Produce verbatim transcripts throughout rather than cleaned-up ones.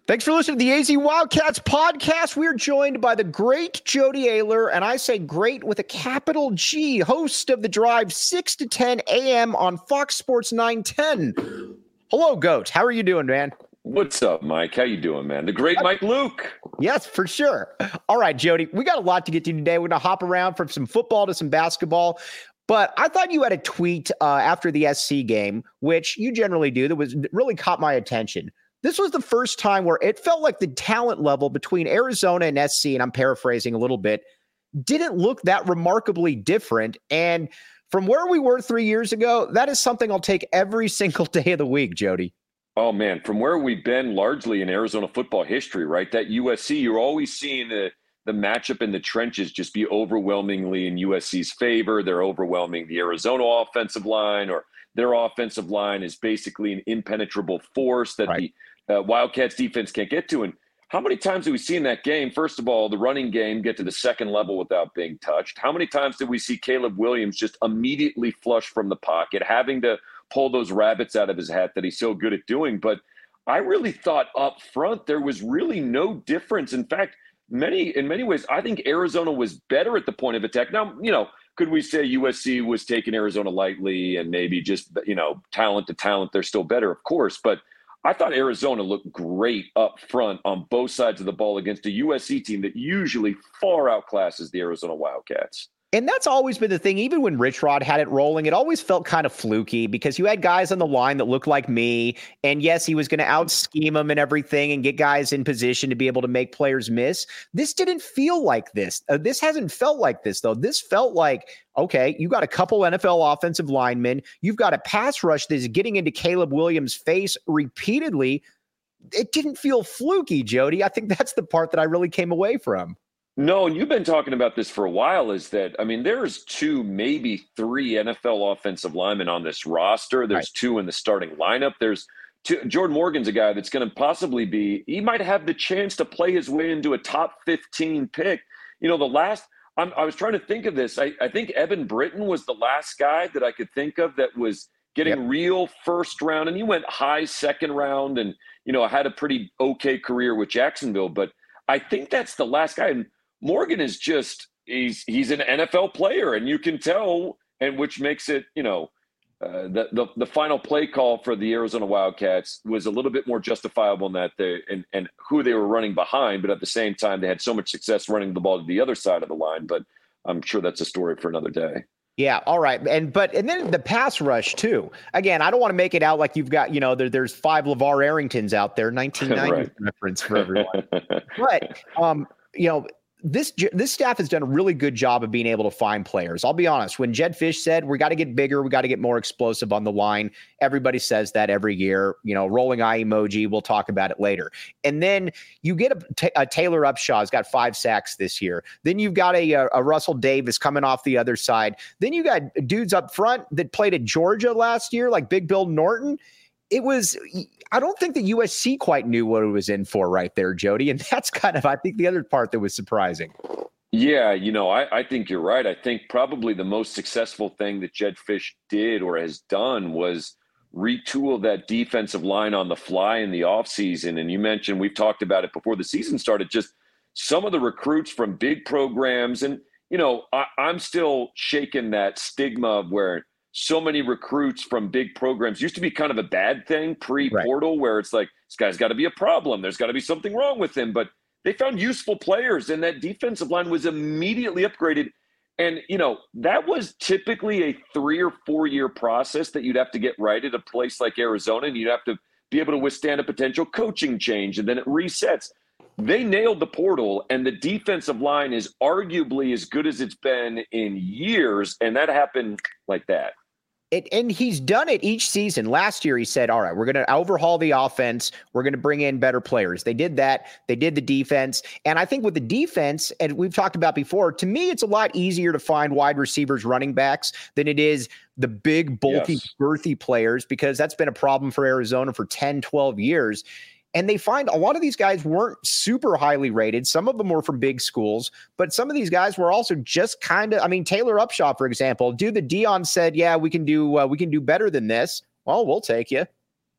Thanks for listening to the A Z Wildcats podcast. We're joined by the great Jody Ayler, and I say great with a capital G, host of The Drive, six to ten a.m. on Fox Sports nine ten. Hello, Goat. How are you doing, man? What's up, Mike? How you doing, man? The great Mike Luke. Yes, for sure. All right, Jody, we got a lot to get to today. We're going to hop around from some football to some basketball. But I thought you had a tweet uh, after the S C game, which you generally do, that was really caught my attention. This was the first time where it felt like the talent level between Arizona and S C, and I'm paraphrasing a little bit, didn't look that remarkably different. And from where we were three years ago, that is something I'll take every single day of the week, Jody. Oh, man, from where we've been largely in Arizona football history, right? That U S C, you're always seeing the, the matchup in the trenches just be overwhelmingly in U S C's favor. They're overwhelming the Arizona offensive line, or their offensive line is basically an impenetrable force that right. the Uh, Wildcats defense can't get to. And how many times do we see in that game, first of all, the running game get to the second level without being touched? How many times did we see Caleb Williams just immediately flush from the pocket, having to pull those rabbits out of his hat that he's so good at doing? But I really thought up front there was really no difference. In fact, many in many ways, I think Arizona was better at the point of attack. Now, you know, could we say U S C was taking Arizona lightly and maybe just, you know, talent to talent, they're still better, of course. But I thought Arizona looked great up front on both sides of the ball against a U S C team that usually far outclasses the Arizona Wildcats. And that's always been the thing. Even when Rich Rod had it rolling, it always felt kind of fluky because you had guys on the line that looked like me. And yes, he was going to out scheme them and everything and get guys in position to be able to make players miss. This didn't feel like this. Uh, this hasn't felt like this, though. This felt like, okay, you got a couple N F L offensive linemen. You've got a pass rush that is getting into Caleb Williams' face repeatedly. It didn't feel fluky, Jody. I think that's the part that I really came away from. No, and you've been talking about this for a while, is that, I mean, there's two, maybe three N F L offensive linemen on this roster. There's right. two in the starting lineup. There's two. Jordan Morgan's a guy that's going to possibly be, he might have the chance to play his way into a top fifteen pick. You know, the last, I'm, I was trying to think of this. I, I think Evan Britton was the last guy that I could think of that was getting yep. real first round. And he went high second round and, you know, had a pretty okay career with Jacksonville. But I think that's the last guy. And Morgan is just, he's he's an N F L player, and you can tell, and which makes it, you know, uh, the, the the final play call for the Arizona Wildcats was a little bit more justifiable in that they and, and who they were running behind, but at the same time, they had so much success running the ball to the other side of the line. But I'm sure that's a story for another day. Yeah. All right. And, but, and then the pass rush too. Again, I don't want to make it out like you've got, you know, there, there's five LeVar Arringtons out there, nineteen ninety right. reference for everyone. But, um, you know, This this staff has done a really good job of being able to find players. I'll be honest. When Jedd Fisch said, we got to get bigger, we got to get more explosive on the line, everybody says that every year. You know, rolling eye emoji, we'll talk about it later. And then you get a, a Taylor Upshaw, has got five sacks this year. Then you've got a, a Russell Davis coming off the other side. Then you got dudes up front that played at Georgia last year, like Big Bill Norton. It was, I don't think the U S C quite knew what it was in for right there, Jody. And that's kind of, I think, the other part that was surprising. Yeah, you know, I, I think you're right. I think probably the most successful thing that Jedd Fisch did or has done was retool that defensive line on the fly in the offseason. And you mentioned, we've talked about it before the season started, just some of the recruits from big programs. And, you know, I, I'm still shaking that stigma of where so many recruits from big programs used to be kind of a bad thing pre-portal right. where it's like, this guy's got to be a problem. There's got to be something wrong with him. But they found useful players, and that defensive line was immediately upgraded. And, you know, that was typically a three or four year process that you'd have to get right at a place like Arizona, and you'd have to be able to withstand a potential coaching change, and then it resets. They nailed the portal, and the defensive line is arguably as good as it's been in years, and that happened like that. It, and he's done it each season. Last year, he said, all right, we're going to overhaul the offense. We're going to bring in better players. They did that. They did the defense. And I think with the defense, and we've talked about before, to me, it's a lot easier to find wide receivers, running backs than it is the big, bulky, yes. girthy players, because that's been a problem for Arizona for ten, twelve years. And they find a lot of these guys weren't super highly rated. Some of them were from big schools, but some of these guys were also just kind of, I mean, Taylor Upshaw, for example, dude, the Dion said, yeah, we can do, uh, we can do better than this. Well, we'll take you.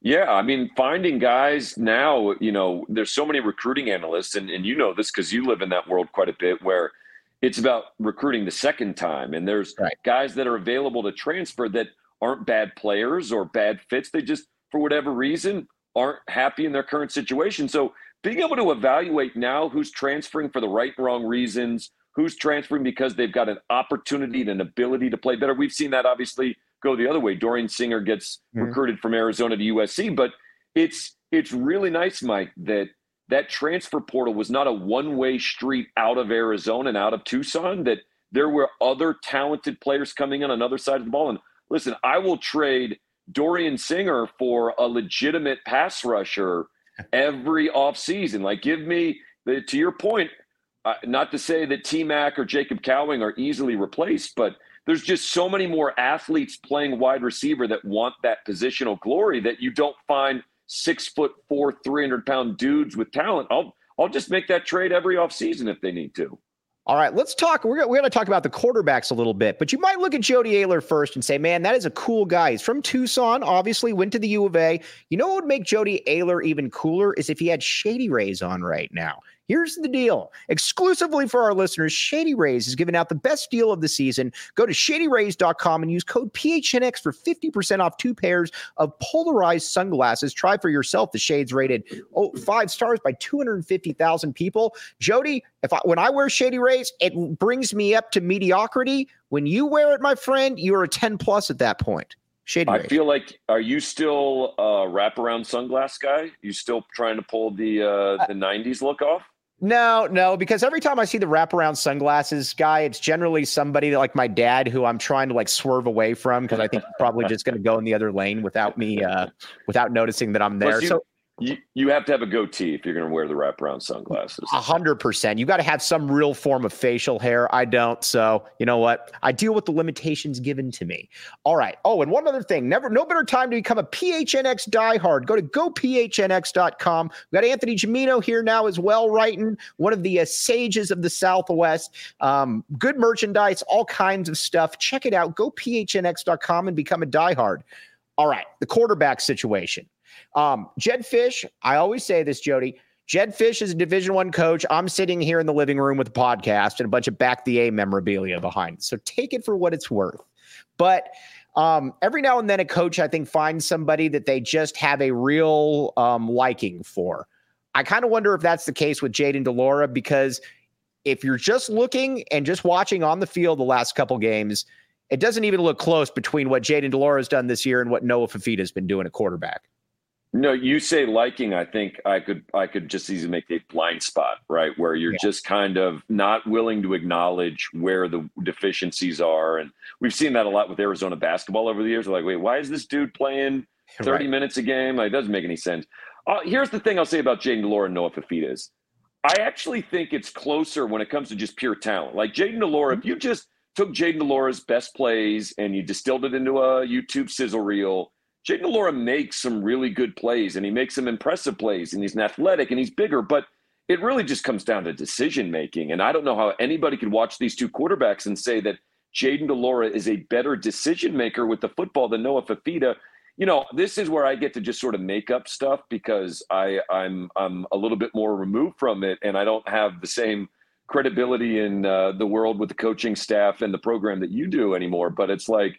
Yeah, I mean, finding guys now, you know, there's so many recruiting analysts, and, and you know this because you live in that world quite a bit, where it's about recruiting the second time. And there's Right. guys that are available to transfer that aren't bad players or bad fits. They just, for whatever reason, aren't happy in their current situation. So being able to evaluate now who's transferring for the right and wrong reasons, who's transferring because they've got an opportunity and an ability to play better. We've seen that obviously go the other way. Dorian Singer gets mm-hmm. recruited from Arizona to U S C, but it's it's really nice, Mike, that that transfer portal was not a one-way street out of Arizona and out of Tucson, that there were other talented players coming in on the other side of the ball. And listen, I will trade Dorian Singer for a legitimate pass rusher every offseason. Like, give me, the, to your point, uh, not to say that T-Mac or Jacob Cowing are easily replaced, but there's just so many more athletes playing wide receiver that want that positional glory that you don't find six foot four, three hundred pound dudes with talent. I'll I'll just make that trade every offseason if they need to. All right, let's talk. We're, we're going to talk about the quarterbacks a little bit, but you might look at Jody Ayler first and say, man, that is a cool guy. He's from Tucson, obviously went to the U of A. You know what would make Jody Ayler even cooler is if he had Shady Rays on right now. Here's the deal. Exclusively for our listeners, Shady Rays is giving out the best deal of the season. Go to shady rays dot com and use code P H N X for fifty percent off two pairs of polarized sunglasses. Try for yourself. The shades rated oh, five stars by two hundred fifty thousand people. Jody, if I, when I wear Shady Rays, it brings me up to mediocrity. When you wear it, my friend, you're a ten plus at that point. Shady I Rays. feel like, are you still a wraparound sunglass guy? You still trying to pull the uh, the nineties look off? No, no, because every time I see the wraparound sunglasses guy, it's generally somebody that, like my dad, who I'm trying to like swerve away from because I think he's probably just going to go in the other lane without me, uh, without noticing that I'm there. You, so you you have to have a goatee if you're going to wear the wraparound sunglasses. A hundred percent. You got to have some real form of facial hair. I don't. So you know what? I deal with the limitations given to me. All right. Oh, and one other thing. Never, no better time to become a P H N X diehard. Go to go P H N X dot com. We got Anthony Gimino here now as well, writing one of the uh, sages of the Southwest. Um, good merchandise, all kinds of stuff. Check it out. Go P H N X dot com and become a diehard. All right. The quarterback situation. Um, Jedd Fisch, I always say this, Jody. Jedd Fisch is a Division One coach. I'm sitting here in the living room with a podcast and a bunch of Back the A memorabilia behind it. So take it for what it's worth. But um, every now and then a coach, I think, finds somebody that they just have a real um, liking for. I kind of wonder if that's the case with Jayden de Laura, because if you're just looking and just watching on the field the last couple games, it doesn't even look close between what Jayden de Laura has done this year and what Noah Fifita has been doing at quarterback. No, you say liking. I think I could I could just easily make a blind spot, right, where you're yeah. just kind of not willing to acknowledge where the deficiencies are. And we've seen that a lot with Arizona basketball over the years. We're like, wait, why is this dude playing thirty right. minutes a game? Like, it doesn't make any sense. Uh, here's the thing I'll say about Jayden de Laura and Noah Fifita is I actually think it's closer when it comes to just pure talent. Like Jayden de Laura, mm-hmm. if you just took Jayden de Laura's best plays and you distilled it into a YouTube sizzle reel, Jayden de Laura makes some really good plays, and he makes some impressive plays, and he's an athletic, and he's bigger, but it really just comes down to decision-making. And I don't know how anybody could watch these two quarterbacks and say that Jayden de Laura is a better decision-maker with the football than Noah Fifita. You know, this is where I get to just sort of make up stuff because I, I'm I'm a little bit more removed from it, and I don't have the same credibility in uh, the world with the coaching staff and the program that you do anymore. But it's like,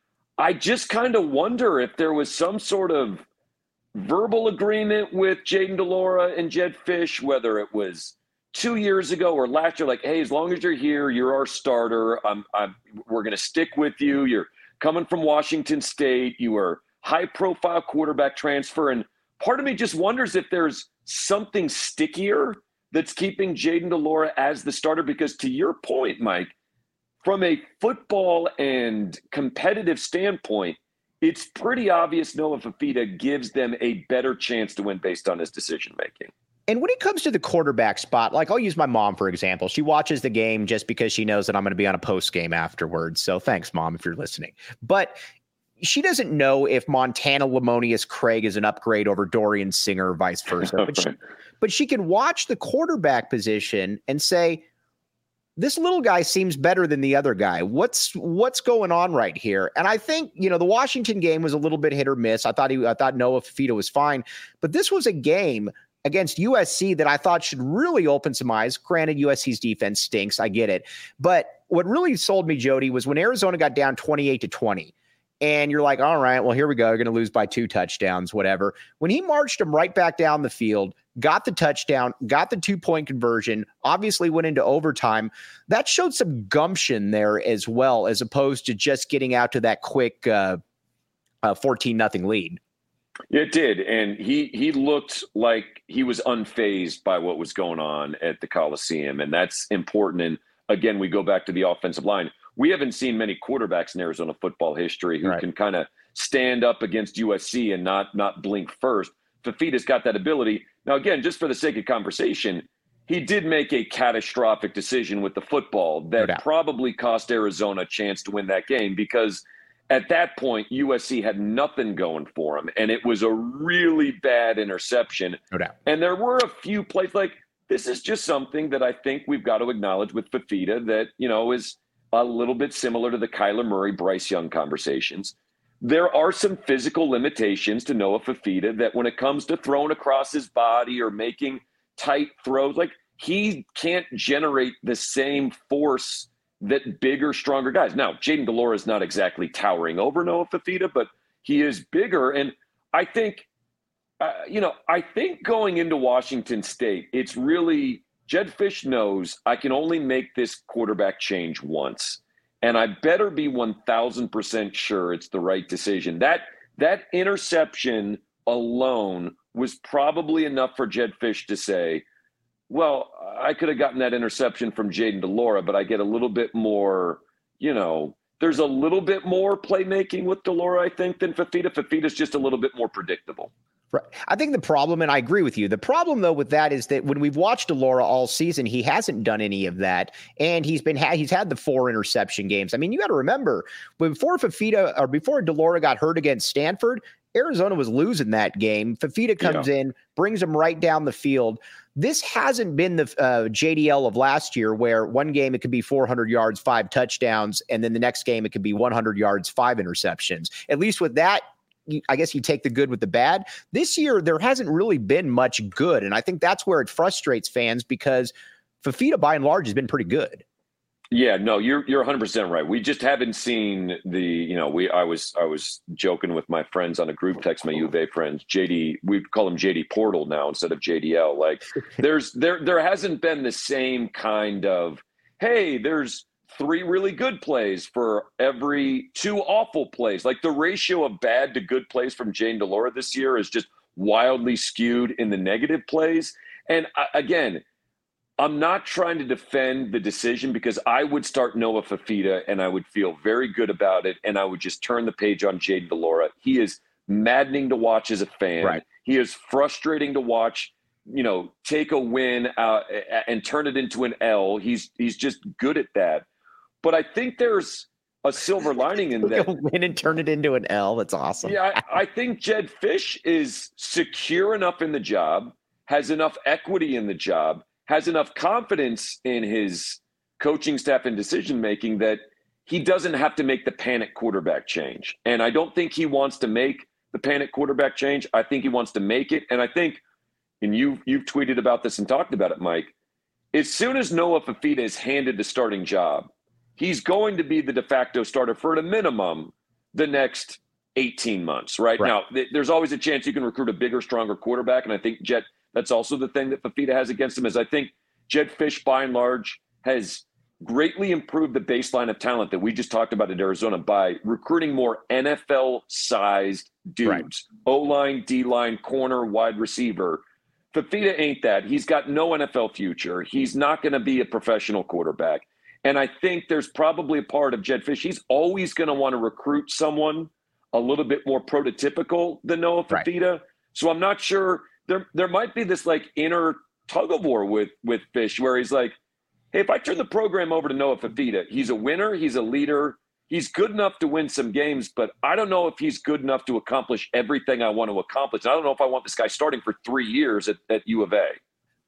I just kind of wonder if there was some sort of verbal agreement with Jayden de Laura and Jedd Fisch, whether it was two years ago or last year, like, hey, as long as you're here, you're our starter. I'm, I'm, we're going to stick with you. You're coming from Washington State. You were high-profile quarterback transfer. And part of me just wonders if there's something stickier that's keeping Jayden de Laura as the starter, because to your point, Mike, from a football and competitive standpoint, it's pretty obvious Noah Fifita gives them a better chance to win based on his decision-making. And when it comes to the quarterback spot, like I'll use my mom, for example. She watches the game just because she knows that I'm going to be on a post game afterwards. So thanks, Mom, if you're listening. But she doesn't know if Montana Lamonius Craig is an upgrade over Dorian Singer or vice versa. But she, but she can watch the quarterback position and say, this little guy seems better than the other guy. What's what's going on right here? And I think, you know, the Washington game was a little bit hit or miss. I thought he I thought Noah Fifita was fine, but this was a game against U S C that I thought should really open some eyes. Granted, U S C's defense stinks. I get it. But what really sold me, Jody, was when Arizona got down twenty-eight to twenty. And you're like, all right, well, here we go. You're going to lose by two touchdowns, whatever. When he marched them right back down the field, got the touchdown, got the two-point conversion, obviously went into overtime, that showed some gumption there as well, as opposed to just getting out to that quick uh, uh, fourteen nothing lead. It did. And he he looked like he was unfazed by what was going on at the Coliseum. And that's important. And again, we go back to the offensive line. We haven't seen many quarterbacks in Arizona football history who right. can kind of stand up against U S C and not not blink first. Fifita's got that ability. Now, again, just for the sake of conversation, he did make a catastrophic decision with the football that no probably cost Arizona a chance to win that game, because at that point, U S C had nothing going for him, and it was a really bad interception. No doubt. And there were a few plays like this is just something that I think we've got to acknowledge with Fifita that, you know, is a little bit similar to the Kyler Murray, Bryce Young conversations. There are some physical limitations to Noah Fifita that when it comes to throwing across his body or making tight throws, like he can't generate the same force that bigger, stronger guys. Now, Jayden de Laura is not exactly towering over Noah Fifita, but he is bigger. And I think, uh, you know, I think going into Washington State, it's really – Jedd Fisch knows I can only make this quarterback change once, and I better be one thousand percent sure it's the right decision. That that interception alone was probably enough for Jedd Fisch to say, well, I could have gotten that interception from Jayden de Laura, but I get a little bit more, you know, there's a little bit more playmaking with de Laura, I think, than Fifita. Fifita's just a little bit more predictable. Right. I think the problem, and I agree with you, the problem, though, with that is that when we've watched de Laura all season, he hasn't done any of that. And he's been ha- he's had the four interception games. I mean, you got to remember, before Fifita or before de Laura got hurt against Stanford, Arizona was losing that game. Fifita comes yeah. in, brings him right down the field. This hasn't been the uh, J D L of last year, where one game it could be four hundred yards, five touchdowns, and then the next game it could be one hundred yards, five interceptions. At least with that, I guess you take the good with the bad. This year, there hasn't really been much good. And I think that's where it frustrates fans, because Fifita, by and large, has been pretty good. Yeah, no, you're you're one hundred percent right. We just haven't seen the, you know, we I was I was joking with my friends on a group text, my U of A friends, J D, we call him J D Portal now instead of J D L. Like there's there there hasn't been the same kind of, hey, there's three really good plays for every two awful plays. Like the ratio of bad to good plays from Jayden de Laura this year is just wildly skewed in the negative plays. And uh, again, I'm not trying to defend the decision, because I would start Noah Fifita and I would feel very good about it. And I would just turn the page on Jayden de Laura. He is maddening to watch as a fan. Right. He is frustrating to watch, you know, take a win uh, and turn it into an L. He's, he's just good at that. But I think there's a silver lining in that. Win and turn it into an L. That's awesome. Yeah, I, I think Jedd Fisch is secure enough in the job, has enough equity in the job, has enough confidence in his coaching staff and decision-making that he doesn't have to make the panic quarterback change. And I don't think he wants to make the panic quarterback change. I think he wants to make it. And I think, and you've, you've tweeted about this and talked about it, Mike, as soon as Noah Fifita is handed the starting job, he's going to be the de facto starter for at a minimum the next eighteen months, right? right. Now, th- there's always a chance you can recruit a bigger, stronger quarterback. And I think Jet, that's also the thing that Fifita has against him, is I think Jedd Fisch, by and large, has greatly improved the baseline of talent that we just talked about at Arizona by recruiting more N F L-sized dudes, right. O-line, D-line, corner, wide receiver. Fifita ain't that. He's got no N F L future. He's not going to be a professional quarterback. And I think there's probably a part of Jedd Fisch. He's always going to want to recruit someone a little bit more prototypical than Noah Fifita. Right. So I'm not sure. There there might be this like inner tug of war with, with Fisch, where he's like, hey, if I turn the program over to Noah Fifita, he's a winner, he's a leader, he's good enough to win some games, but I don't know if he's good enough to accomplish everything I want to accomplish. I don't know if I want this guy starting for three years at, at U of A.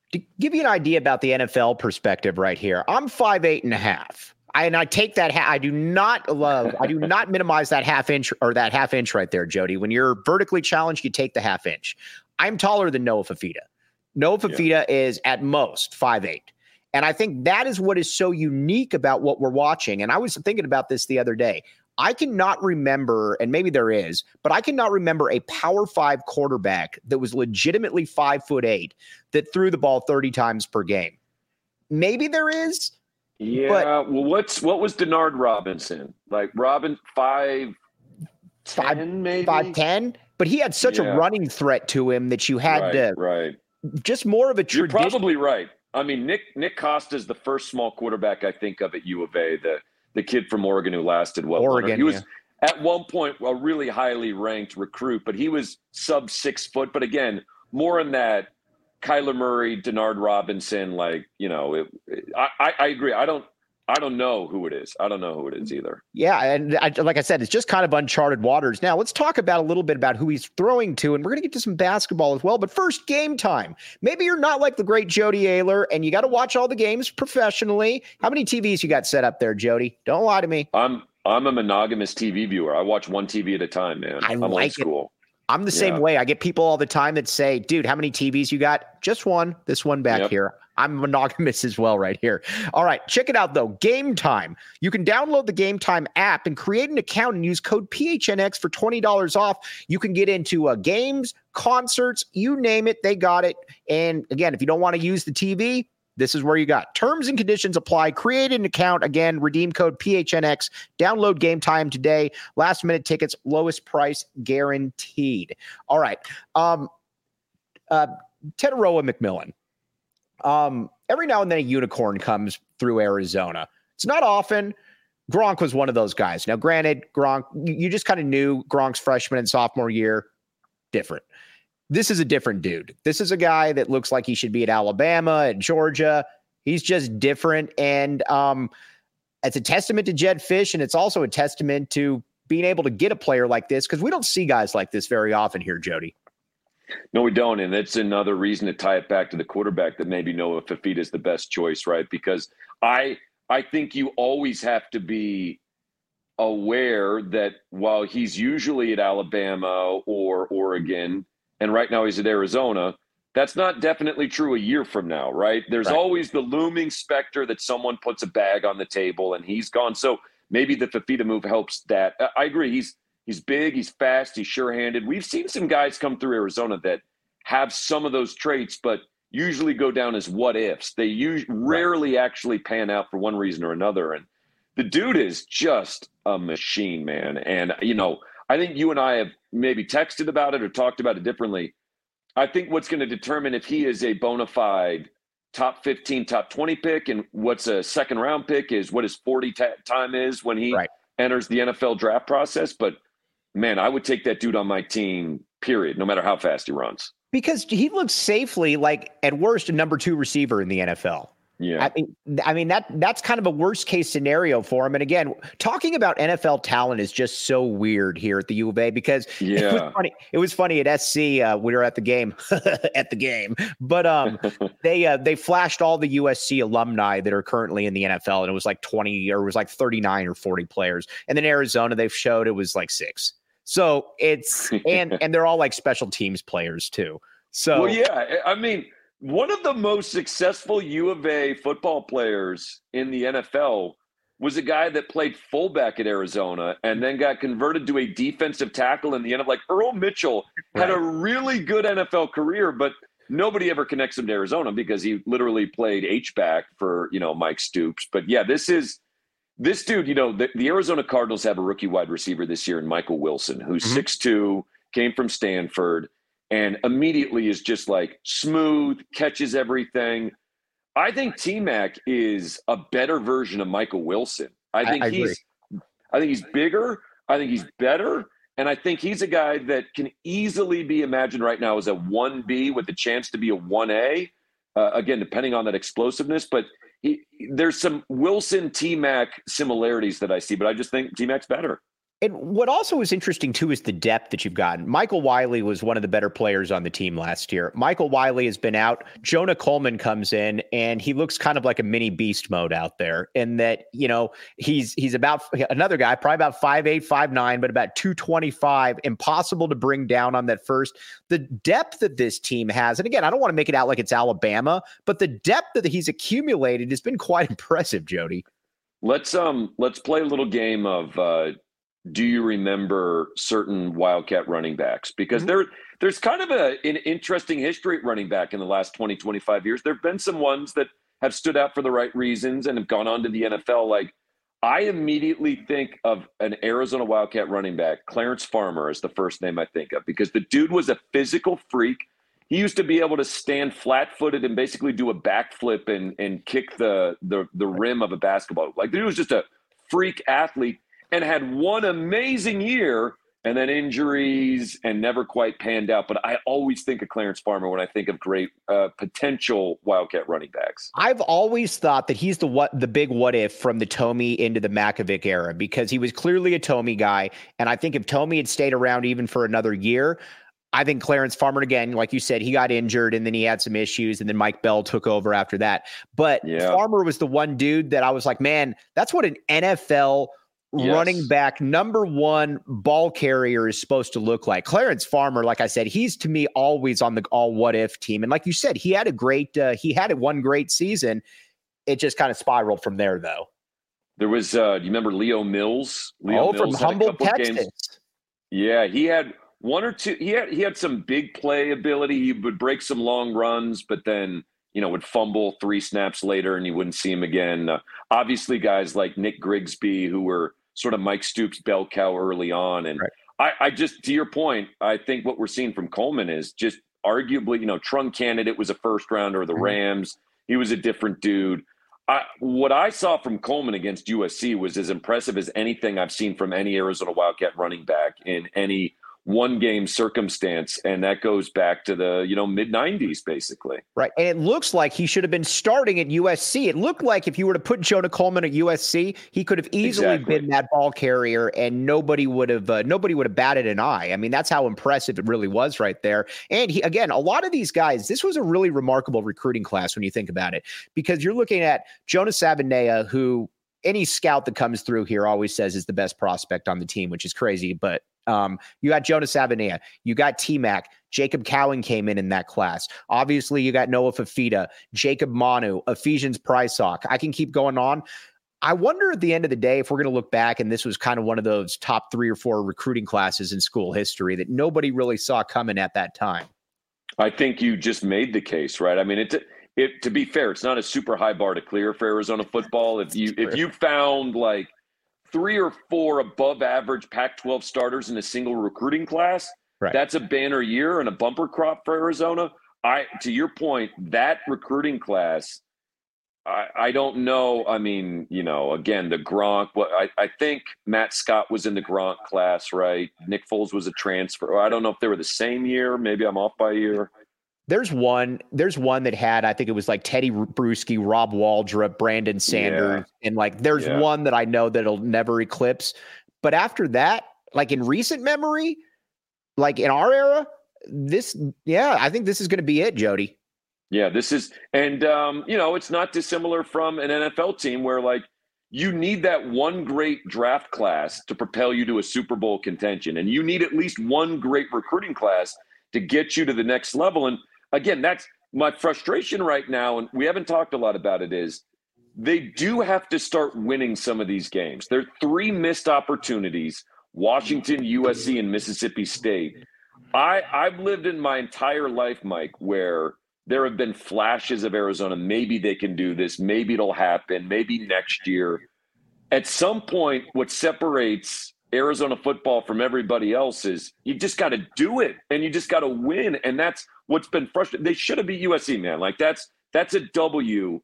To give you an idea about the N F L perspective right here, I'm five eight and a half. I, and I take that. Ha- I do not love. I do not minimize that half inch or that half inch right there, Jody. When you're vertically challenged, you take the half inch. I'm taller than Noah Fifita. Noah Fifita yeah. is at most five eight. And I think that is what is so unique about what we're watching. And I was thinking about this the other day. I cannot remember, and maybe there is, but I cannot remember a Power Five quarterback that was legitimately five foot eight that threw the ball thirty times per game. Maybe there is. Yeah. But well, what's what was Denard Robinson like? Robin five, five, ten, maybe five ten. But he had such yeah. a running threat to him that you had right, to right. Just more of a tradition. You're probably right. I mean, Nick Nick Costa is the first small quarterback I think of at U of A, the the kid from Oregon who lasted well. Oregon, he was yeah. at one point a really highly ranked recruit, but he was sub six foot. But again, more in that Kyler Murray, Denard Robinson, like you know, it, it, I I agree. I don't. I don't know who it is. I don't know who it is either. Yeah, and I, like I said, it's just kind of uncharted waters. Now, let's talk about a little bit about who he's throwing to, and we're going to get to some basketball as well. But first, game time. Maybe you're not like the great Jody Ayler, and you got to watch all the games professionally. How many T Vs you got set up there, Jody? Don't lie to me. I'm I'm a monogamous T V viewer. I watch one T V at a time, man. I I'm like old school. It. I'm the same yeah. way. I get people all the time that say, dude, how many T Vs you got? Just one. This one back yep. here. I'm monogamous as well right here. All right, check it out, though. Game Time. You can download the Game Time app and create an account and use code P H N X for twenty dollars off. You can get into uh, games, concerts, you name it, they got it. And again, if you don't want to use the T V, this is where you got. Terms and conditions apply. Create an account. Again, redeem code P H N X. Download Game Time today. Last minute tickets, lowest price guaranteed. All right. Um, uh, Teteroa McMillan. Um, every now and then a unicorn comes through Arizona. It's not often. Gronk was one of those guys. Now, granted, Gronk, you just kind of knew Gronk's freshman and sophomore year, different. This is a different dude. This is a guy that looks like he should be at Alabama and Georgia. He's just different. And um, it's a testament to Jedd Fisch, and it's also a testament to being able to get a player like this, because we don't see guys like this very often here, Jody. No, we don't. And that's another reason to tie it back to the quarterback that maybe Noah Fifita is the best choice, right? Because I I think you always have to be aware that while he's usually at Alabama or Oregon, and right now he's at Arizona, that's not definitely true a year from now, right? There's right. always the looming specter that someone puts a bag on the table and he's gone. So maybe the Fifita move helps that. I agree. He's He's big, he's fast, he's sure-handed. We've seen some guys come through Arizona that have some of those traits, but usually go down as what-ifs. They usually rarely actually pan out for one reason or another. And the dude is just a machine, man. And, you know, I think you and I have maybe texted about it or talked about it differently. I think what's going to determine if he is a bona fide top fifteen, top twenty pick and what's a second-round pick is what his forty ta- time is when he right. enters the N F L draft process. But man, I would take that dude on my team, period, no matter how fast he runs. Because he looks safely like, at worst, a number two receiver in the N F L. Yeah. I mean, I mean that that's kind of a worst case scenario for him. And again, talking about N F L talent is just so weird here at the U of A because yeah. it was funny. It was funny at S C. Uh, we were at the game, at the game, but um, they uh, they flashed all the U S C alumni that are currently in the N F L, and it was like twenty or it was like thirty-nine or forty players. And then Arizona, they've showed it was like six. So it's and and they're all like special teams players too. So well, yeah, I mean, one of the most successful U of A football players in the N F L was a guy that played fullback at Arizona and then got converted to a defensive tackle in the end of like Earl Mitchell had right. a really good N F L career, but nobody ever connects him to Arizona because he literally played H-back for, you know, Mike Stoops. But yeah, this is this dude, you know, the, the Arizona Cardinals have a rookie wide receiver this year in Michael Wilson, who's mm-hmm. six two, came from Stanford, and immediately is just like smooth, catches everything. I think T-Mac is a better version of Michael Wilson. I think I, I he's agree. I think he's bigger. I think he's better. And I think he's a guy that can easily be imagined right now as a one B with the chance to be a one A, uh, again, depending on that explosiveness. But he, there's some Wilson T-Mac similarities that I see, but I just think T-Mac's better. And what also is interesting, too, is the depth that you've gotten. Michael Wiley was one of the better players on the team last year. Michael Wiley has been out. Jonah Coleman comes in, and he looks kind of like a mini beast mode out there. And that, you know, he's he's about another guy, probably about five eight, five nine, but about two twenty-five. Impossible to bring down on that first. The depth that this team has, and again, I don't want to make it out like it's Alabama, but the depth that he's accumulated has been quite impressive, Jody. Let's um let's play a little game of uh do you remember certain Wildcat running backs? Because mm-hmm. there, there's kind of a, an interesting history at running back in the last twenty, twenty-five years. There have been some ones that have stood out for the right reasons and have gone on to the N F L. Like, I immediately think of an Arizona Wildcat running back, Clarence Farmer is the first name I think of, because the dude was a physical freak. He used to be able to stand flat-footed and basically do a backflip and, and kick the, the, the rim of a basketball. Like, the dude was just a freak athlete. And had one amazing year and then injuries and never quite panned out. But I always think of Clarence Farmer when I think of great uh, potential Wildcat running backs. I've always thought that he's the what the big what if from the Tomey into the Makovic era, because he was clearly a Tomey guy. And I think if Tomey had stayed around even for another year, I think Clarence Farmer, again, like you said, he got injured and then he had some issues and then Mike Bell took over after that. But yeah. Farmer was the one dude that I was like, man, that's what an N F L Yes. running back number one ball carrier is supposed to look like. Clarence Farmer, like I said, he's to me always on the all what if team. And like you said, he had a great, uh, he had a one great season. It just kind of spiraled from there, though. There was, uh, do you remember Leo Mills? Leo oh, Mills from Humboldt, Texas. Games. Yeah, he had one or two. He had he had some big play ability. He would break some long runs, but then, you know, would fumble three snaps later and you wouldn't see him again. Uh, obviously, guys like Nick Grigsby, who were sort of Mike Stoops' bell cow early on. And right. I, I just, to your point, I think what we're seeing from Coleman is just arguably, you know, Trung candidate was a first rounder of the mm-hmm. Rams. He was a different dude. I, what I saw from Coleman against U S C was as impressive as anything I've seen from any Arizona Wildcat running back in any one game circumstance. And that goes back to the, you know, mid nineties, basically. Right. And it looks like he should have been starting at U S C. It looked like if you were to put Jonah Coleman at U S C, he could have easily exactly. been that ball carrier and nobody would have, uh, nobody would have batted an eye. I mean, that's how impressive it really was right there. And he, again, a lot of these guys, this was a really remarkable recruiting class when you think about it, because you're looking at Jonah Sabanea, who any scout that comes through here always says is the best prospect on the team, which is crazy. But Um, you got Jonah Sabanea, you got T-Mac, Jacob Cowan came in in that class. Obviously, you got Noah Fafita, Jacob Manu, Ephesians Prysock. I can keep going on. I wonder at the end of the day if we're going to look back and this was kind of one of those top three or four recruiting classes in school history that nobody really saw coming at that time. I think you just made the case, right? I mean, it's it. To be fair, it's not a super high bar to clear for Arizona football. If you if you found like three or four above average Pac twelve starters in a single recruiting class, right, that's a banner year and a bumper crop for Arizona. I, to your point, that recruiting class, I, I don't know. I mean, you know, again, the Gronk, what I, I think Matt Scott was in the Gronk class, right? Nick Foles was a transfer. I don't know if they were the same year. Maybe I'm off by a year. There's one, there's one that had, I think it was like Teddy Bruschi, Rob Waldrop, Brandon Sanders. Yeah. And like, there's yeah. one that I know that'll never eclipse. But after that, like in recent memory, like in our era, this, yeah, I think this is going to be it, Jody. Yeah, this is, and um, you know, it's not dissimilar from an N F L team where like you need that one great draft class to propel you to a Super Bowl contention. And you need at least one great recruiting class to get you to the next level. And again, that's my frustration right now, and we haven't talked a lot about it, is they do have to start winning some of these games. There are three missed opportunities, Washington, U S C, and Mississippi State. I, I've lived in my entire life, Mike, where there have been flashes of Arizona. Maybe they can do this. Maybe it'll happen. Maybe next year. At some point, what separates Arizona football from everybody else is you just got to do it and you just got to win. And that's what's been frustrating. They should have beat U S C, man. Like that's, that's a W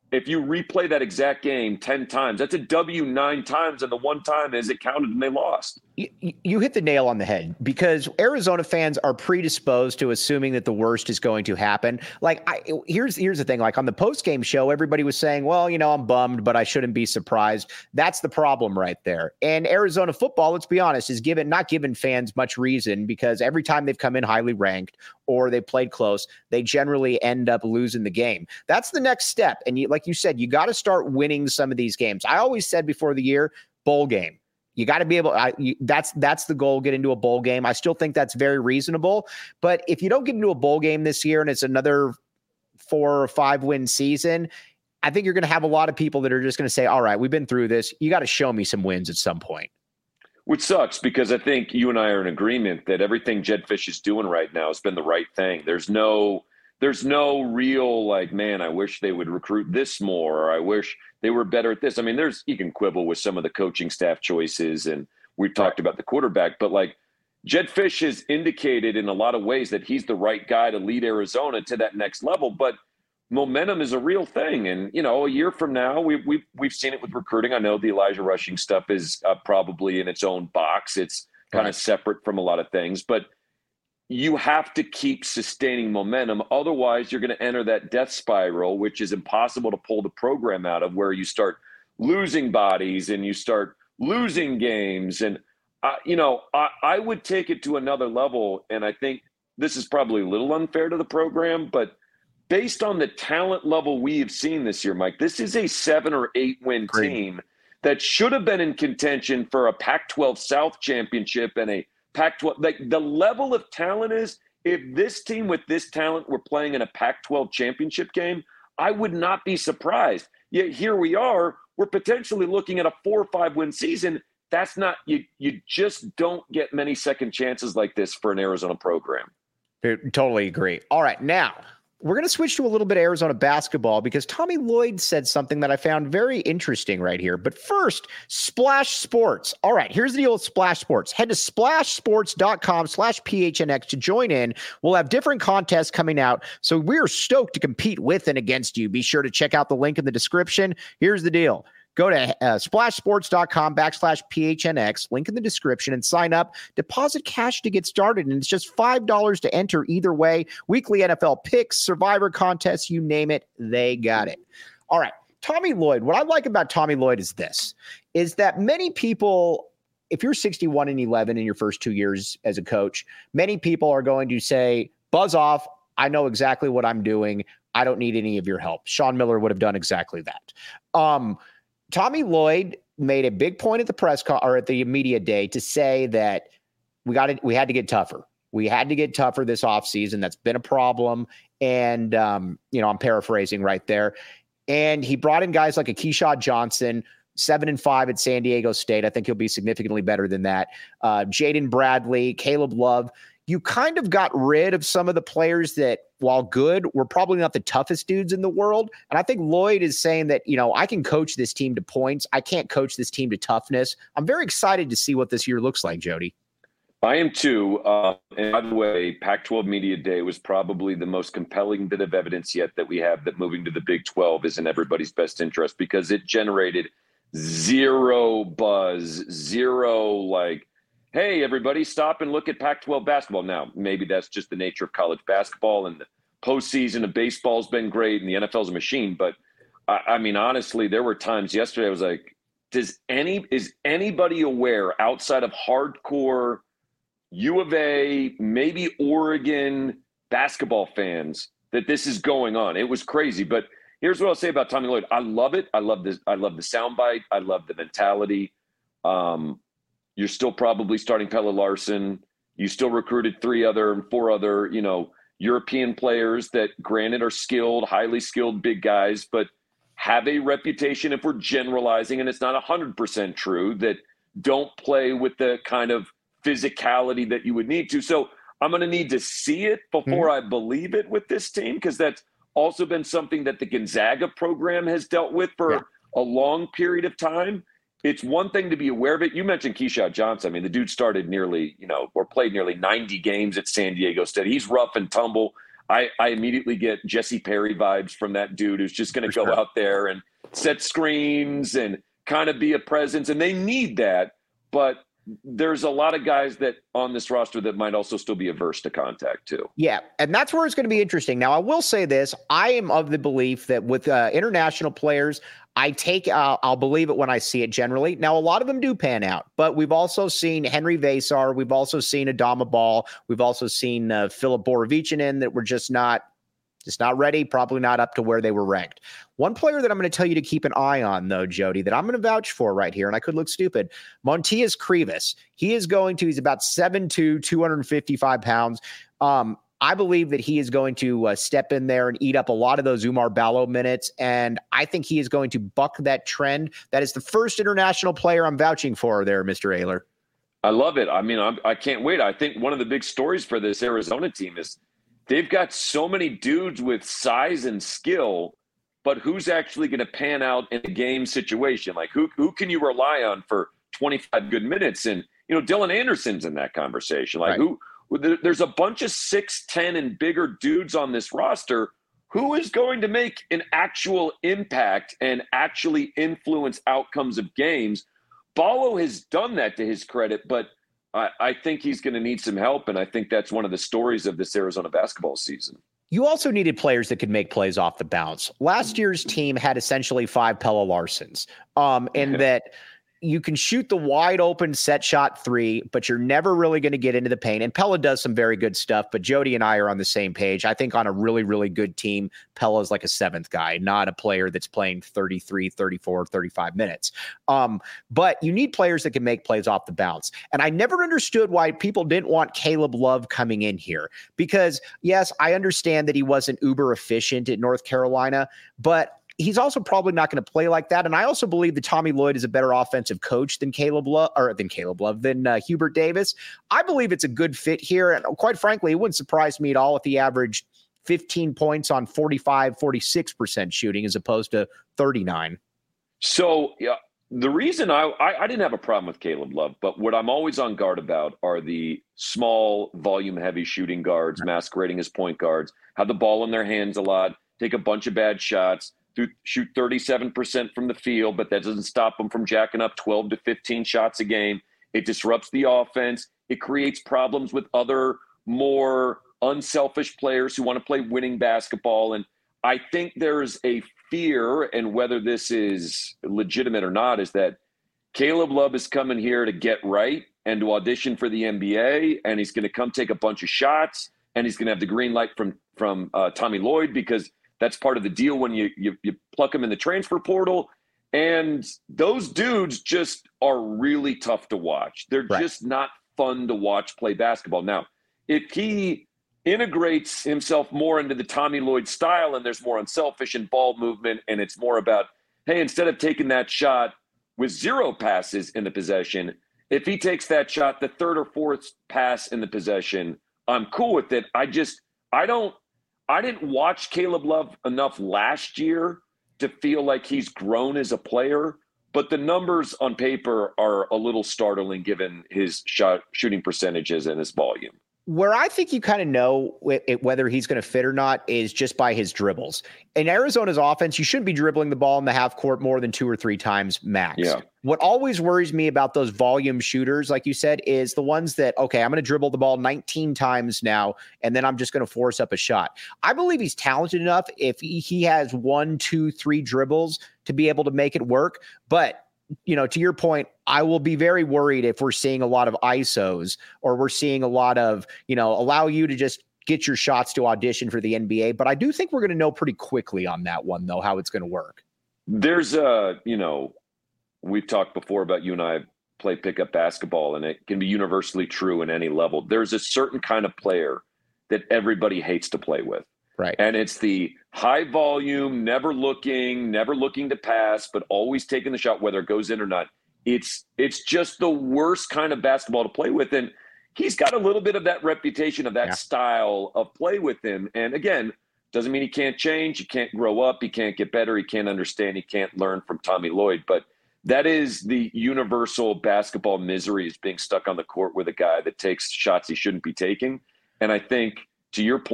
if you replay that exact game ten times, that's a W nine times, and the one time is it counted and they lost. You, you hit the nail on the head, because Arizona fans are predisposed to assuming that the worst is going to happen. Like, I, here's here's the thing. Like, on the post-game show, everybody was saying, well, you know, I'm bummed, but I shouldn't be surprised. That's the problem right there. And Arizona football, let's be honest, is given not given fans much reason, because every time they've come in highly ranked or they played close, they generally end up losing the game. That's the next step. And you, like you said, you got to start winning some of these games. I always said before the year, bowl game. You got to be able I, you, that's that's the goal, get into a bowl game. I still think that's very reasonable. But if you don't get into a bowl game this year and it's another four or five win season, I think you're going to have a lot of people that are just going to say, all right, we've been through this. You got to show me some wins at some point. Which sucks, because I think you and I are in agreement that everything Jedd Fisch is doing right now has been the right thing. There's no There's no real, like, man, I wish they would recruit this more, or I wish they were better at this. I mean, there's, you can quibble with some of the coaching staff choices, and we've talked about the quarterback, but like Jedd Fisch has indicated in a lot of ways that he's the right guy to lead Arizona to that next level. But momentum is a real thing. And, you know, a year from now, we, we've, we've seen it with recruiting. I know the Elijah Rushing stuff is uh, probably in its own box. It's kind of separate from a lot of things, but you have to keep sustaining momentum. Otherwise, you're going to enter that death spiral, which is impossible to pull the program out of, where you start losing bodies and you start losing games. And, uh, you know, I, I would take it to another level. And I think this is probably a little unfair to the program, but based on the talent level we have seen this year, Mike, this is a seven or eight win Great. team that should have been in contention for a Pac twelve South championship and a Pac twelve. Like, the level of talent is, if this team with this talent were playing in a Pac twelve championship game, I would not be surprised. Yet here we are, we're potentially looking at a four or five win season. That's not, you, you just don't get many second chances like this for an Arizona program. I totally agree. All right, now we're going to switch to a little bit of Arizona basketball, because Tommy Lloyd said something that I found very interesting right here. But first, Splash Sports. All right, here's the deal with Splash Sports. Head to splashsports.com slash PHNX to join in. We'll have different contests coming out, so we're stoked to compete with and against you. Be sure to check out the link in the description. Here's the deal. Go to uh, splashsports.com backslash PHNX, link in the description, and sign up. Deposit cash to get started, and it's just five dollars to enter either way. Weekly N F L picks, Survivor contests, you name it, they got it. All right, Tommy Lloyd. What I like about Tommy Lloyd is this, is that many people, if you're sixty-one and eleven in your first two years as a coach, many people are going to say, buzz off, I know exactly what I'm doing. I don't need any of your help. Sean Miller would have done exactly that. Um, Tommy Lloyd made a big point at the press con- or at the media day to say that we got it. We had to get tougher. We had to get tougher this offseason. That's been a problem. And, um, you know, I'm paraphrasing right there. And he brought in guys like a Keyshawn Johnson, seven and five at San Diego State. I think he'll be significantly better than that. Uh, Jaden Bradley, Caleb Love. You kind of got rid of some of the players that, while good, were probably not the toughest dudes in the world. And I think Lloyd is saying that, you know, I can coach this team to points. I can't coach this team to toughness. I'm very excited to see what this year looks like, Jody. I am too. Uh, and by the way, Pac twelve Media Day was probably the most compelling bit of evidence yet that we have that moving to the Big twelve is in everybody's best interest, because it generated zero buzz, zero like, hey, everybody, stop and look at Pac twelve basketball. Now, maybe that's just the nature of college basketball, and the postseason of baseball has been great, and the N F L is a machine. But, I, I mean, honestly, there were times yesterday I was like, does any is anybody aware outside of hardcore U of A, maybe Oregon basketball fans that this is going on? It was crazy. But here's what I'll say about Tommy Lloyd. I love it. I love this. I love the soundbite. I love the mentality. Um, You're still probably starting Pelle Larsson. You still recruited three other and four other, you know, European players that, granted, are skilled, highly skilled big guys, but have a reputation, if we're generalizing, and it's not one hundred percent true, that don't play with the kind of physicality that you would need to. So I'm going to need to see it before mm-hmm. I believe it with this team, because that's also been something that the Gonzaga program has dealt with for yeah. a long period of time. It's one thing to be aware of it. You mentioned Keyshawn Johnson. I mean, the dude started nearly, you know, or played nearly ninety games at San Diego State. He's rough and tumble. I, I immediately get Jesse Perry vibes from that dude who's just going to go sure. out there and set screens and kind of be a presence. And they need that. But there's a lot of guys that on this roster that might also still be averse to contact too. Yeah, and that's where it's going to be interesting. Now, I will say this. I am of the belief that with uh, international players, I take, uh, I'll believe it when I see it generally. Now, a lot of them do pan out, but we've also seen Henry Vasar. We've also seen Adama Ball. We've also seen uh, Filip Borovichinin that were just not, just not ready, probably not up to where they were ranked. One player that I'm going to tell you to keep an eye on, though, Jody, that I'm going to vouch for right here, and I could look stupid, Montias Krivas. He is going to, he's about seven two, two hundred fifty-five pounds. Um, I believe that he is going to uh, step in there and eat up a lot of those Oumar Ballo minutes, and I think he is going to buck that trend. That is the first international player I'm vouching for there, Mister Ayler. I love it. I mean, I'm, I can't wait. I think one of the big stories for this Arizona team is they've got so many dudes with size and skill, but who's actually going to pan out in a game situation? Like who who can you rely on for twenty-five good minutes? And, you know, Dylan Anderson's in that conversation. Like right. who there's a bunch of six ten and bigger dudes on this roster. Who is going to make an actual impact and actually influence outcomes of games? Ballo has done that to his credit, but I, I think he's going to need some help, and I think that's one of the stories of this Arizona basketball season. You also needed players that could make plays off the bounce. Last year's team had essentially five Pelle Larssons, um, and that you can shoot the wide open set shot three, but you're never really going to get into the paint. And Pelle does some very good stuff, but Jody and I are on the same page. I think on a really, really good team, Pelle is like a seventh guy, not a player that's playing thirty-three, thirty-four, thirty-five minutes. Um, but you need players that can make plays off the bounce. And I never understood why people didn't want Caleb Love coming in here, because yes, I understand that he wasn't uber efficient at North Carolina, but he's also probably not going to play like that. And I also believe that Tommy Lloyd is a better offensive coach than Caleb Love, or than Caleb Love, than uh, Hubert Davis. I believe it's a good fit here. And quite frankly, it wouldn't surprise me at all if he averaged fifteen points on forty-five, forty-six percent shooting as opposed to thirty-nine. So yeah, the reason I, I, I didn't have a problem with Caleb Love, but what I'm always on guard about are the small volume heavy shooting guards masquerading as point guards, have the ball in their hands a lot, take a bunch of bad shots, shoot thirty-seven percent from the field, but that doesn't stop them from jacking up twelve to fifteen shots a game. It disrupts the offense. It creates problems with other more unselfish players who want to play winning basketball. And I think there's a fear, and whether this is legitimate or not, is that Caleb Love is coming here to get right and to audition for the N B A, and he's going to come take a bunch of shots, and he's going to have the green light from, from uh, Tommy Lloyd, because that's part of the deal when you, you you pluck them in the transfer portal. And those dudes just are really tough to watch. They're right. just not fun to watch play basketball. Now, if he integrates himself more into the Tommy Lloyd style and there's more unselfish and ball movement, and it's more about, hey, instead of taking that shot with zero passes in the possession, if he takes that shot, the third or fourth pass in the possession, I'm cool with it. I just, I don't, I didn't watch Caleb Love enough last year to feel like he's grown as a player, but the numbers on paper are a little startling given his shot shooting percentages and his volume. Where I think you kind of know whether he's going to fit or not is just by his dribbles. In Arizona's offense, you shouldn't be dribbling the ball in the half court more than two or three times max. Yeah. What always worries me about those volume shooters, like you said, is the ones that, okay, I'm going to dribble the ball nineteen times now, and then I'm just going to force up a shot. I believe he's talented enough if he, he has one, two, three dribbles to be able to make it work. But you know, to your point, I will be very worried if we're seeing a lot of I S Os or we're seeing a lot of, you know, allow you to just get your shots to audition for the N B A. But I do think we're going to know pretty quickly on that one, though, how it's going to work. There's a, you know, we've talked before about you and I play pickup basketball, and it can be universally true in any level. There's a certain kind of player that everybody hates to play with. Right. And it's the high volume, never looking, never looking to pass, but always taking the shot, whether it goes in or not. It's it's just the worst kind of basketball to play with. And he's got a little bit of that reputation of that yeah. style of play with him. And again, doesn't mean he can't change. He can't grow up. He can't get better. He can't understand. He can't learn from Tommy Lloyd. But that is the universal basketball misery, is being stuck on the court with a guy that takes shots he shouldn't be taking. And I think, to your point,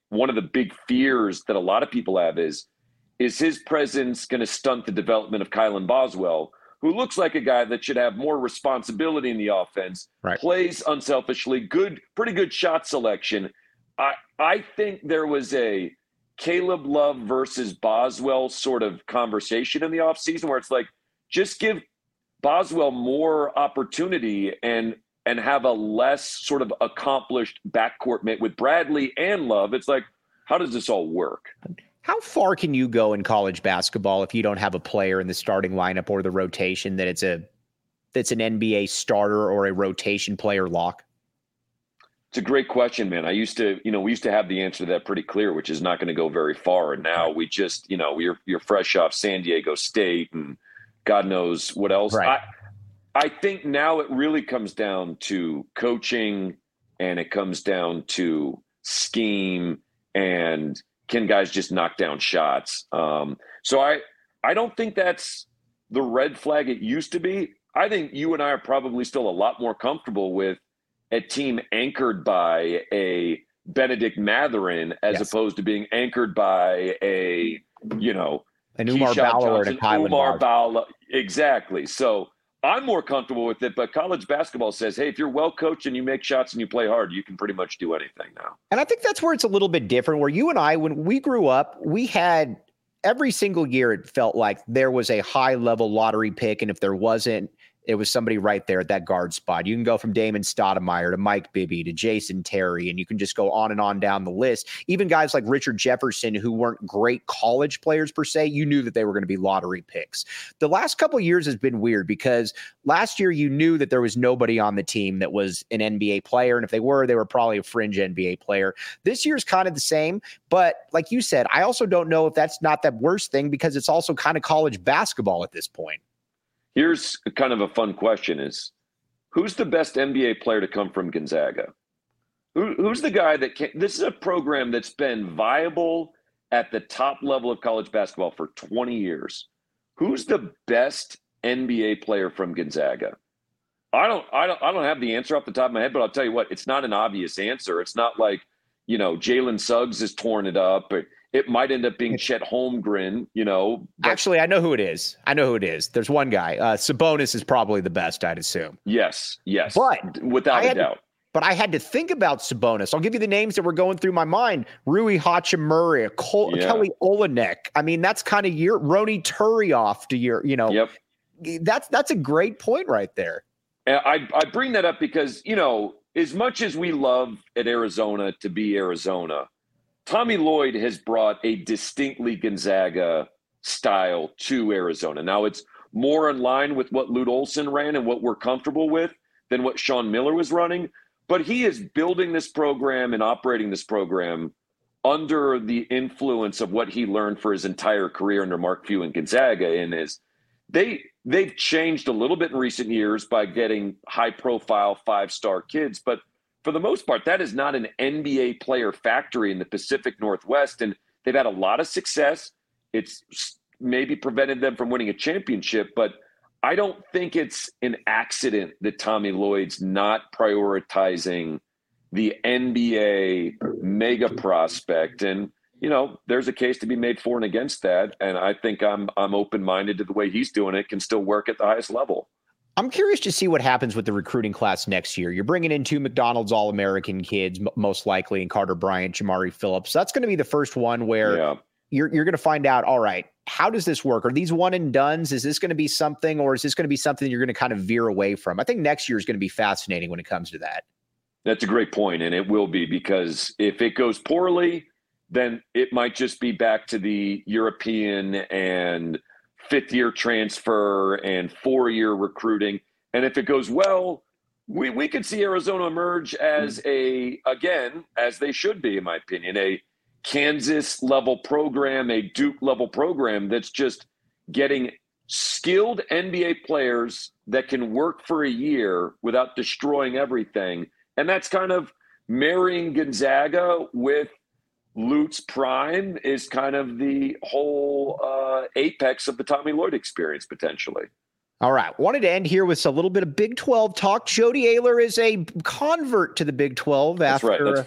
one of the big fears that a lot of people have is, is his presence going to stunt the development of Kylan Boswell, who looks like a guy that should have more responsibility in the offense, right. plays unselfishly, good, pretty good shot selection. I I think there was a Caleb Love versus Boswell sort of conversation in the offseason where it's like, just give Boswell more opportunity and and have a less sort of accomplished backcourt mate with Bradley and Love. It's like, how does this all work? How far can you go in college basketball if you don't have a player in the starting lineup or the rotation that it's a that's an N B A starter or a rotation player lock? It's a great question, man. I used to, you know, we used to have the answer to that pretty clear, which is not going to go very far. And now we just, you know, we're you're fresh off San Diego State and God knows what else. Right. I I think now it really comes down to coaching, and it comes down to scheme, and can guys just knock down shots? Um, so I, I don't think that's the red flag it used to be. I think you and I are probably still a lot more comfortable with a team anchored by a Benedict Mathurin as yes. opposed to being anchored by a, you know, an Umar Bala and a Kylan Umar Bala. Exactly. So I'm more comfortable with it, but college basketball says, hey, if you're well coached and you make shots and you play hard, you can pretty much do anything now. And I think that's where it's a little bit different, where you and I, when we grew up, we had every single year, it felt like there was a high level lottery pick. And if there wasn't, it was somebody right there at that guard spot. You can go from Damon Stoudemire to Mike Bibby to Jason Terry, and you can just go on and on down the list. Even guys like Richard Jefferson, who weren't great college players per se, you knew that they were going to be lottery picks. The last couple of years has been weird because last year you knew that there was nobody on the team that was an N B A player. And if they were, they were probably a fringe N B A player. This year's kind of the same. But like you said, I also don't know if that's not that worst thing because it's also kind of college basketball at this point. Here's kind of a fun question is, who's the best N B A player to come from Gonzaga? Who, who's the guy that can – this is a program that's been viable at the top level of college basketball for twenty years. Who's the best N B A player from Gonzaga? I don't, I don't, I don't have the answer off the top of my head, but I'll tell you what, it's not an obvious answer. It's not like, you know, Jalen Suggs has torn it up, but it might end up being Chet Holmgren, you know. But actually, I know who it is. I know who it is. There's one guy. Uh, Sabonis is probably the best, I'd assume. Yes, yes. But without a doubt. To, but I had to think about Sabonis. I'll give you the names that were going through my mind. Rui Hachimura, Col- yeah. Kelly Olynyk. I mean, that's kind of your Roni Turioff to your, you know. Yep. That's, that's a great point right there. And I, I bring that up because, you know, as much as we love at Arizona to be Arizona, Tommy Lloyd has brought a distinctly Gonzaga style to Arizona. Now it's more in line with what Lute Olson ran and what we're comfortable with than what Sean Miller was running. But he is building this program and operating this program under the influence of what he learned for his entire career under Mark Few and Gonzaga. And is they they've changed a little bit in recent years by getting high profile five-star kids, but for the most part, that is not an N B A player factory in the Pacific Northwest, and they've had a lot of success. It's maybe prevented them from winning a championship, but I don't think it's an accident that Tommy Lloyd's not prioritizing the N B A mega prospect. And, you know, there's a case to be made for and against that, and I think I'm I'm open-minded to the way he's doing it, can still work at the highest level. I'm curious to see what happens with the recruiting class next year. You're bringing in two McDonald's All-American kids, m- most likely, in Carter Bryant, Jamari Phillips. That's going to be the first one where yeah. you're you're going to find out, all right, how does this work? Are these one and dones? Is this going to be something, or is this going to be something you're going to kind of veer away from? I think next year is going to be fascinating when it comes to that. That's a great point, and it will be, because if it goes poorly, then it might just be back to the European and fifth-year transfer and four-year recruiting. And if it goes well, we, we could see Arizona emerge as a, again, as they should be, in my opinion, a Kansas-level program, a Duke-level program that's just getting skilled N B A players that can work for a year without destroying everything. And that's kind of marrying Gonzaga with Lute's prime is kind of the whole uh, apex of the Tommy Lloyd experience, potentially. All right. Wanted to end here with a little bit of Big twelve talk. Jody Ayler is a convert to the Big twelve. That's after, right. That's fair.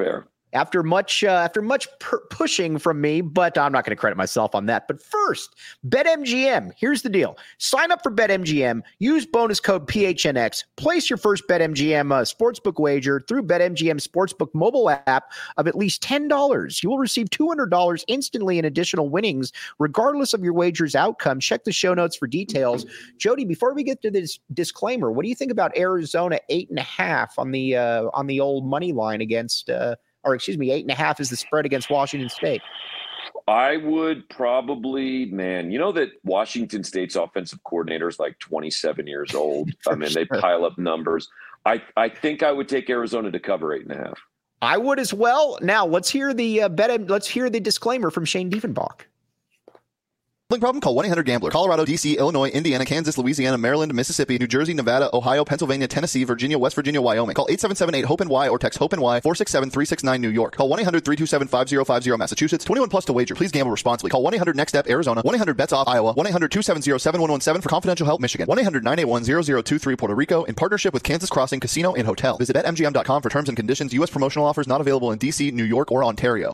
after much uh, after much per- pushing from me, but I'm not going to credit myself on that. But first, BetMGM. Here's the deal. Sign up for BetMGM. Use bonus code P H N X. Place your first BetMGM uh, sportsbook wager through BetMGM Sportsbook mobile app of at least ten dollars. You will receive two hundred dollars instantly in additional winnings, regardless of your wager's outcome. Check the show notes for details. Jody, before we get to this disclaimer, what do you think about Arizona eight and a half on the uh, on the old money line against uh, or excuse me, eight and a half is the spread against Washington State? I would probably, man, you know that Washington State's offensive coordinator is like twenty-seven years old. I mean, sure. They pile up numbers. I, I think I would take Arizona to cover eight and a half. I would as well. Now let's hear the uh, bet. Let's hear the disclaimer from Shane Diefenbach. Problem? Call one eight hundred gambler. Colorado, D C, Illinois, Indiana, Kansas, Louisiana, Maryland, Mississippi, New Jersey, Nevada, Ohio, Pennsylvania, Tennessee, Virginia, West Virginia, Wyoming. Call eight seven seven eight hope N Y or text hope N Y four six seven three six nine New York. Call one eight hundred three two seven five zero five zero Massachusetts. twenty-one plus to wager. Please gamble responsibly. Call one eight hundred next step Arizona. one eight hundred bets off Iowa. one eight hundred two seven zero seven one one seven for confidential help Michigan. one eight hundred nine eight one zero zero two three Puerto Rico in partnership with Kansas Crossing Casino and Hotel. Visit bet M G M dot com for terms and conditions. U S promotional offers not available in D C, New York, or Ontario.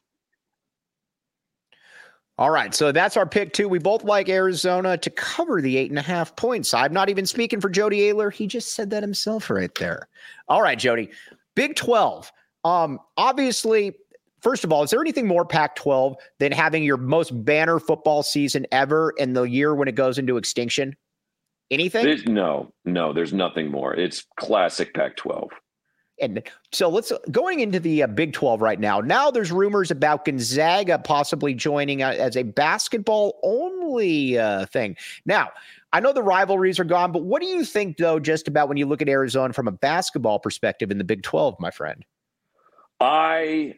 All right, so that's our pick, too. We both like Arizona to cover the eight and a half points. I'm not even speaking for Jody Ayler. He just said that himself right there. All right, Jody, Big twelve. Um, obviously, first of all, is there anything more Pac twelve than having your most banner football season ever in the year when it goes into extinction? Anything? There's, no, no, there's nothing more. It's classic Pac twelve. And so let's going into the uh, Big twelve right now. Now there's rumors about Gonzaga possibly joining uh, as a basketball only uh, thing. Now, I know the rivalries are gone, but what do you think, though, just about when you look at Arizona from a basketball perspective in the Big twelve, my friend? I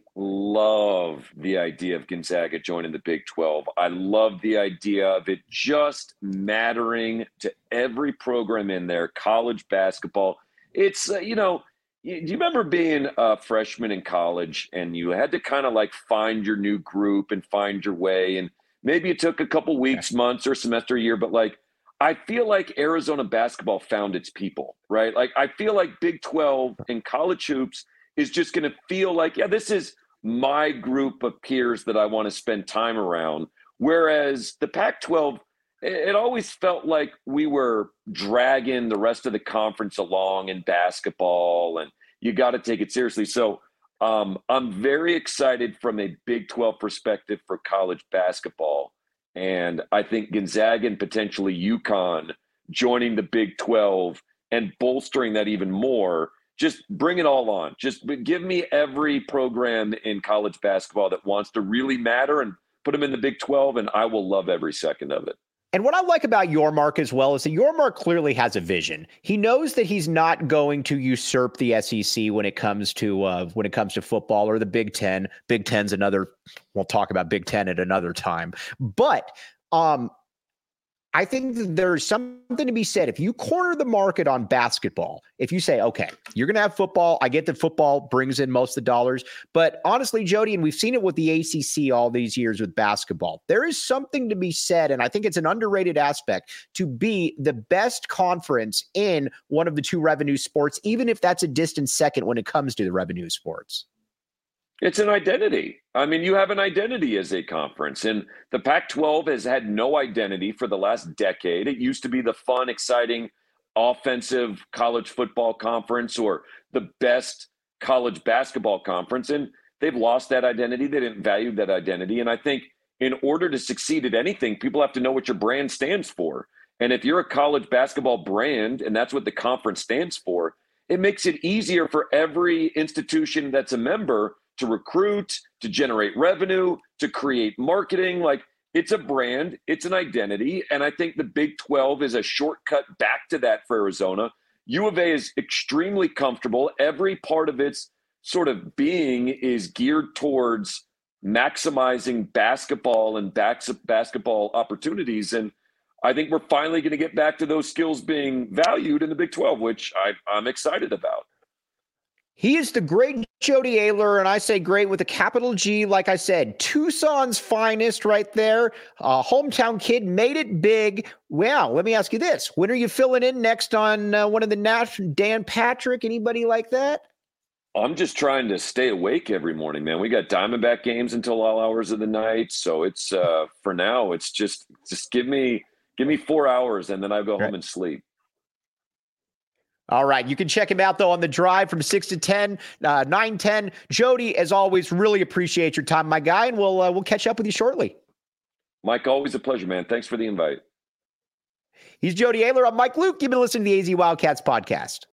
love the idea of Gonzaga joining the Big twelve. I love the idea of it just mattering to every program in there, college basketball. It's, uh, you know, do you remember being a freshman in college and you had to kind of like find your new group and find your way? And maybe it took a couple weeks, months, or semester, year, but like, I feel like Arizona basketball found its people, right? Like, I feel like Big twelve and college hoops is just going to feel like, yeah, this is my group of peers that I want to spend time around. Whereas the Pac twelve, it always felt like we were dragging the rest of the conference along in basketball, and you got to take it seriously. So um, I'm very excited from a Big twelve perspective for college basketball. And I think Gonzaga and potentially UConn joining the Big twelve and bolstering that even more, just bring it all on. Just give me every program in college basketball that wants to really matter and put them in the Big twelve, and I will love every second of it. And what I like about Yormark as well is that Yormark clearly has a vision. He knows that he's not going to usurp the S E C when it comes to uh, when it comes to football or the Big Ten. Big Ten's another. We'll talk about Big Ten at another time. But um, I think that there's something to be said. If you corner the market on basketball, if you say, okay, you're going to have football. I get that football brings in most of the dollars. But honestly, Jody, and we've seen it with the A C C all these years with basketball, there is something to be said, and I think it's an underrated aspect, to be the best conference in one of the two revenue sports, even if that's a distant second when it comes to the revenue sports. It's an identity. I mean, you have an identity as a conference, and the Pac twelve has had no identity for the last decade. It used to be the fun, exciting, offensive college football conference or the best college basketball conference, and they've lost that identity. They didn't value that identity, and I think in order to succeed at anything, people have to know what your brand stands for. And if you're a college basketball brand, and that's what the conference stands for, it makes it easier for every institution that's a member to recruit, to generate revenue, to create marketing. Like, it's a brand, it's an identity. And I think the Big twelve is a shortcut back to that for Arizona. U of A is extremely comfortable. Every part of its sort of being is geared towards maximizing basketball and backs basketball opportunities. And I think we're finally going to get back to those skills being valued in the Big twelve, which I, I'm excited about. He is the great Jody Ayler, and I say great with a capital G. Like I said, Tucson's finest right there. Uh, hometown kid, made it big. Wow, let me ask you this. When are you filling in next on uh, one of the national, Dan Patrick? Anybody like that? I'm just trying to stay awake every morning, man. We got Diamondback games until all hours of the night. So it's, uh, for now, it's just, just give me, give me four hours and then I go right. home and sleep. All right. You can check him out, though, on the drive from six to ten, uh, nine ten. Jody, as always, really appreciate your time, my guy, and we'll uh, we'll catch up with you shortly. Mike, always a pleasure, man. Thanks for the invite. He's Jody Ayler. I'm Mike Luke. You've been listening to the A Z Wildcats podcast.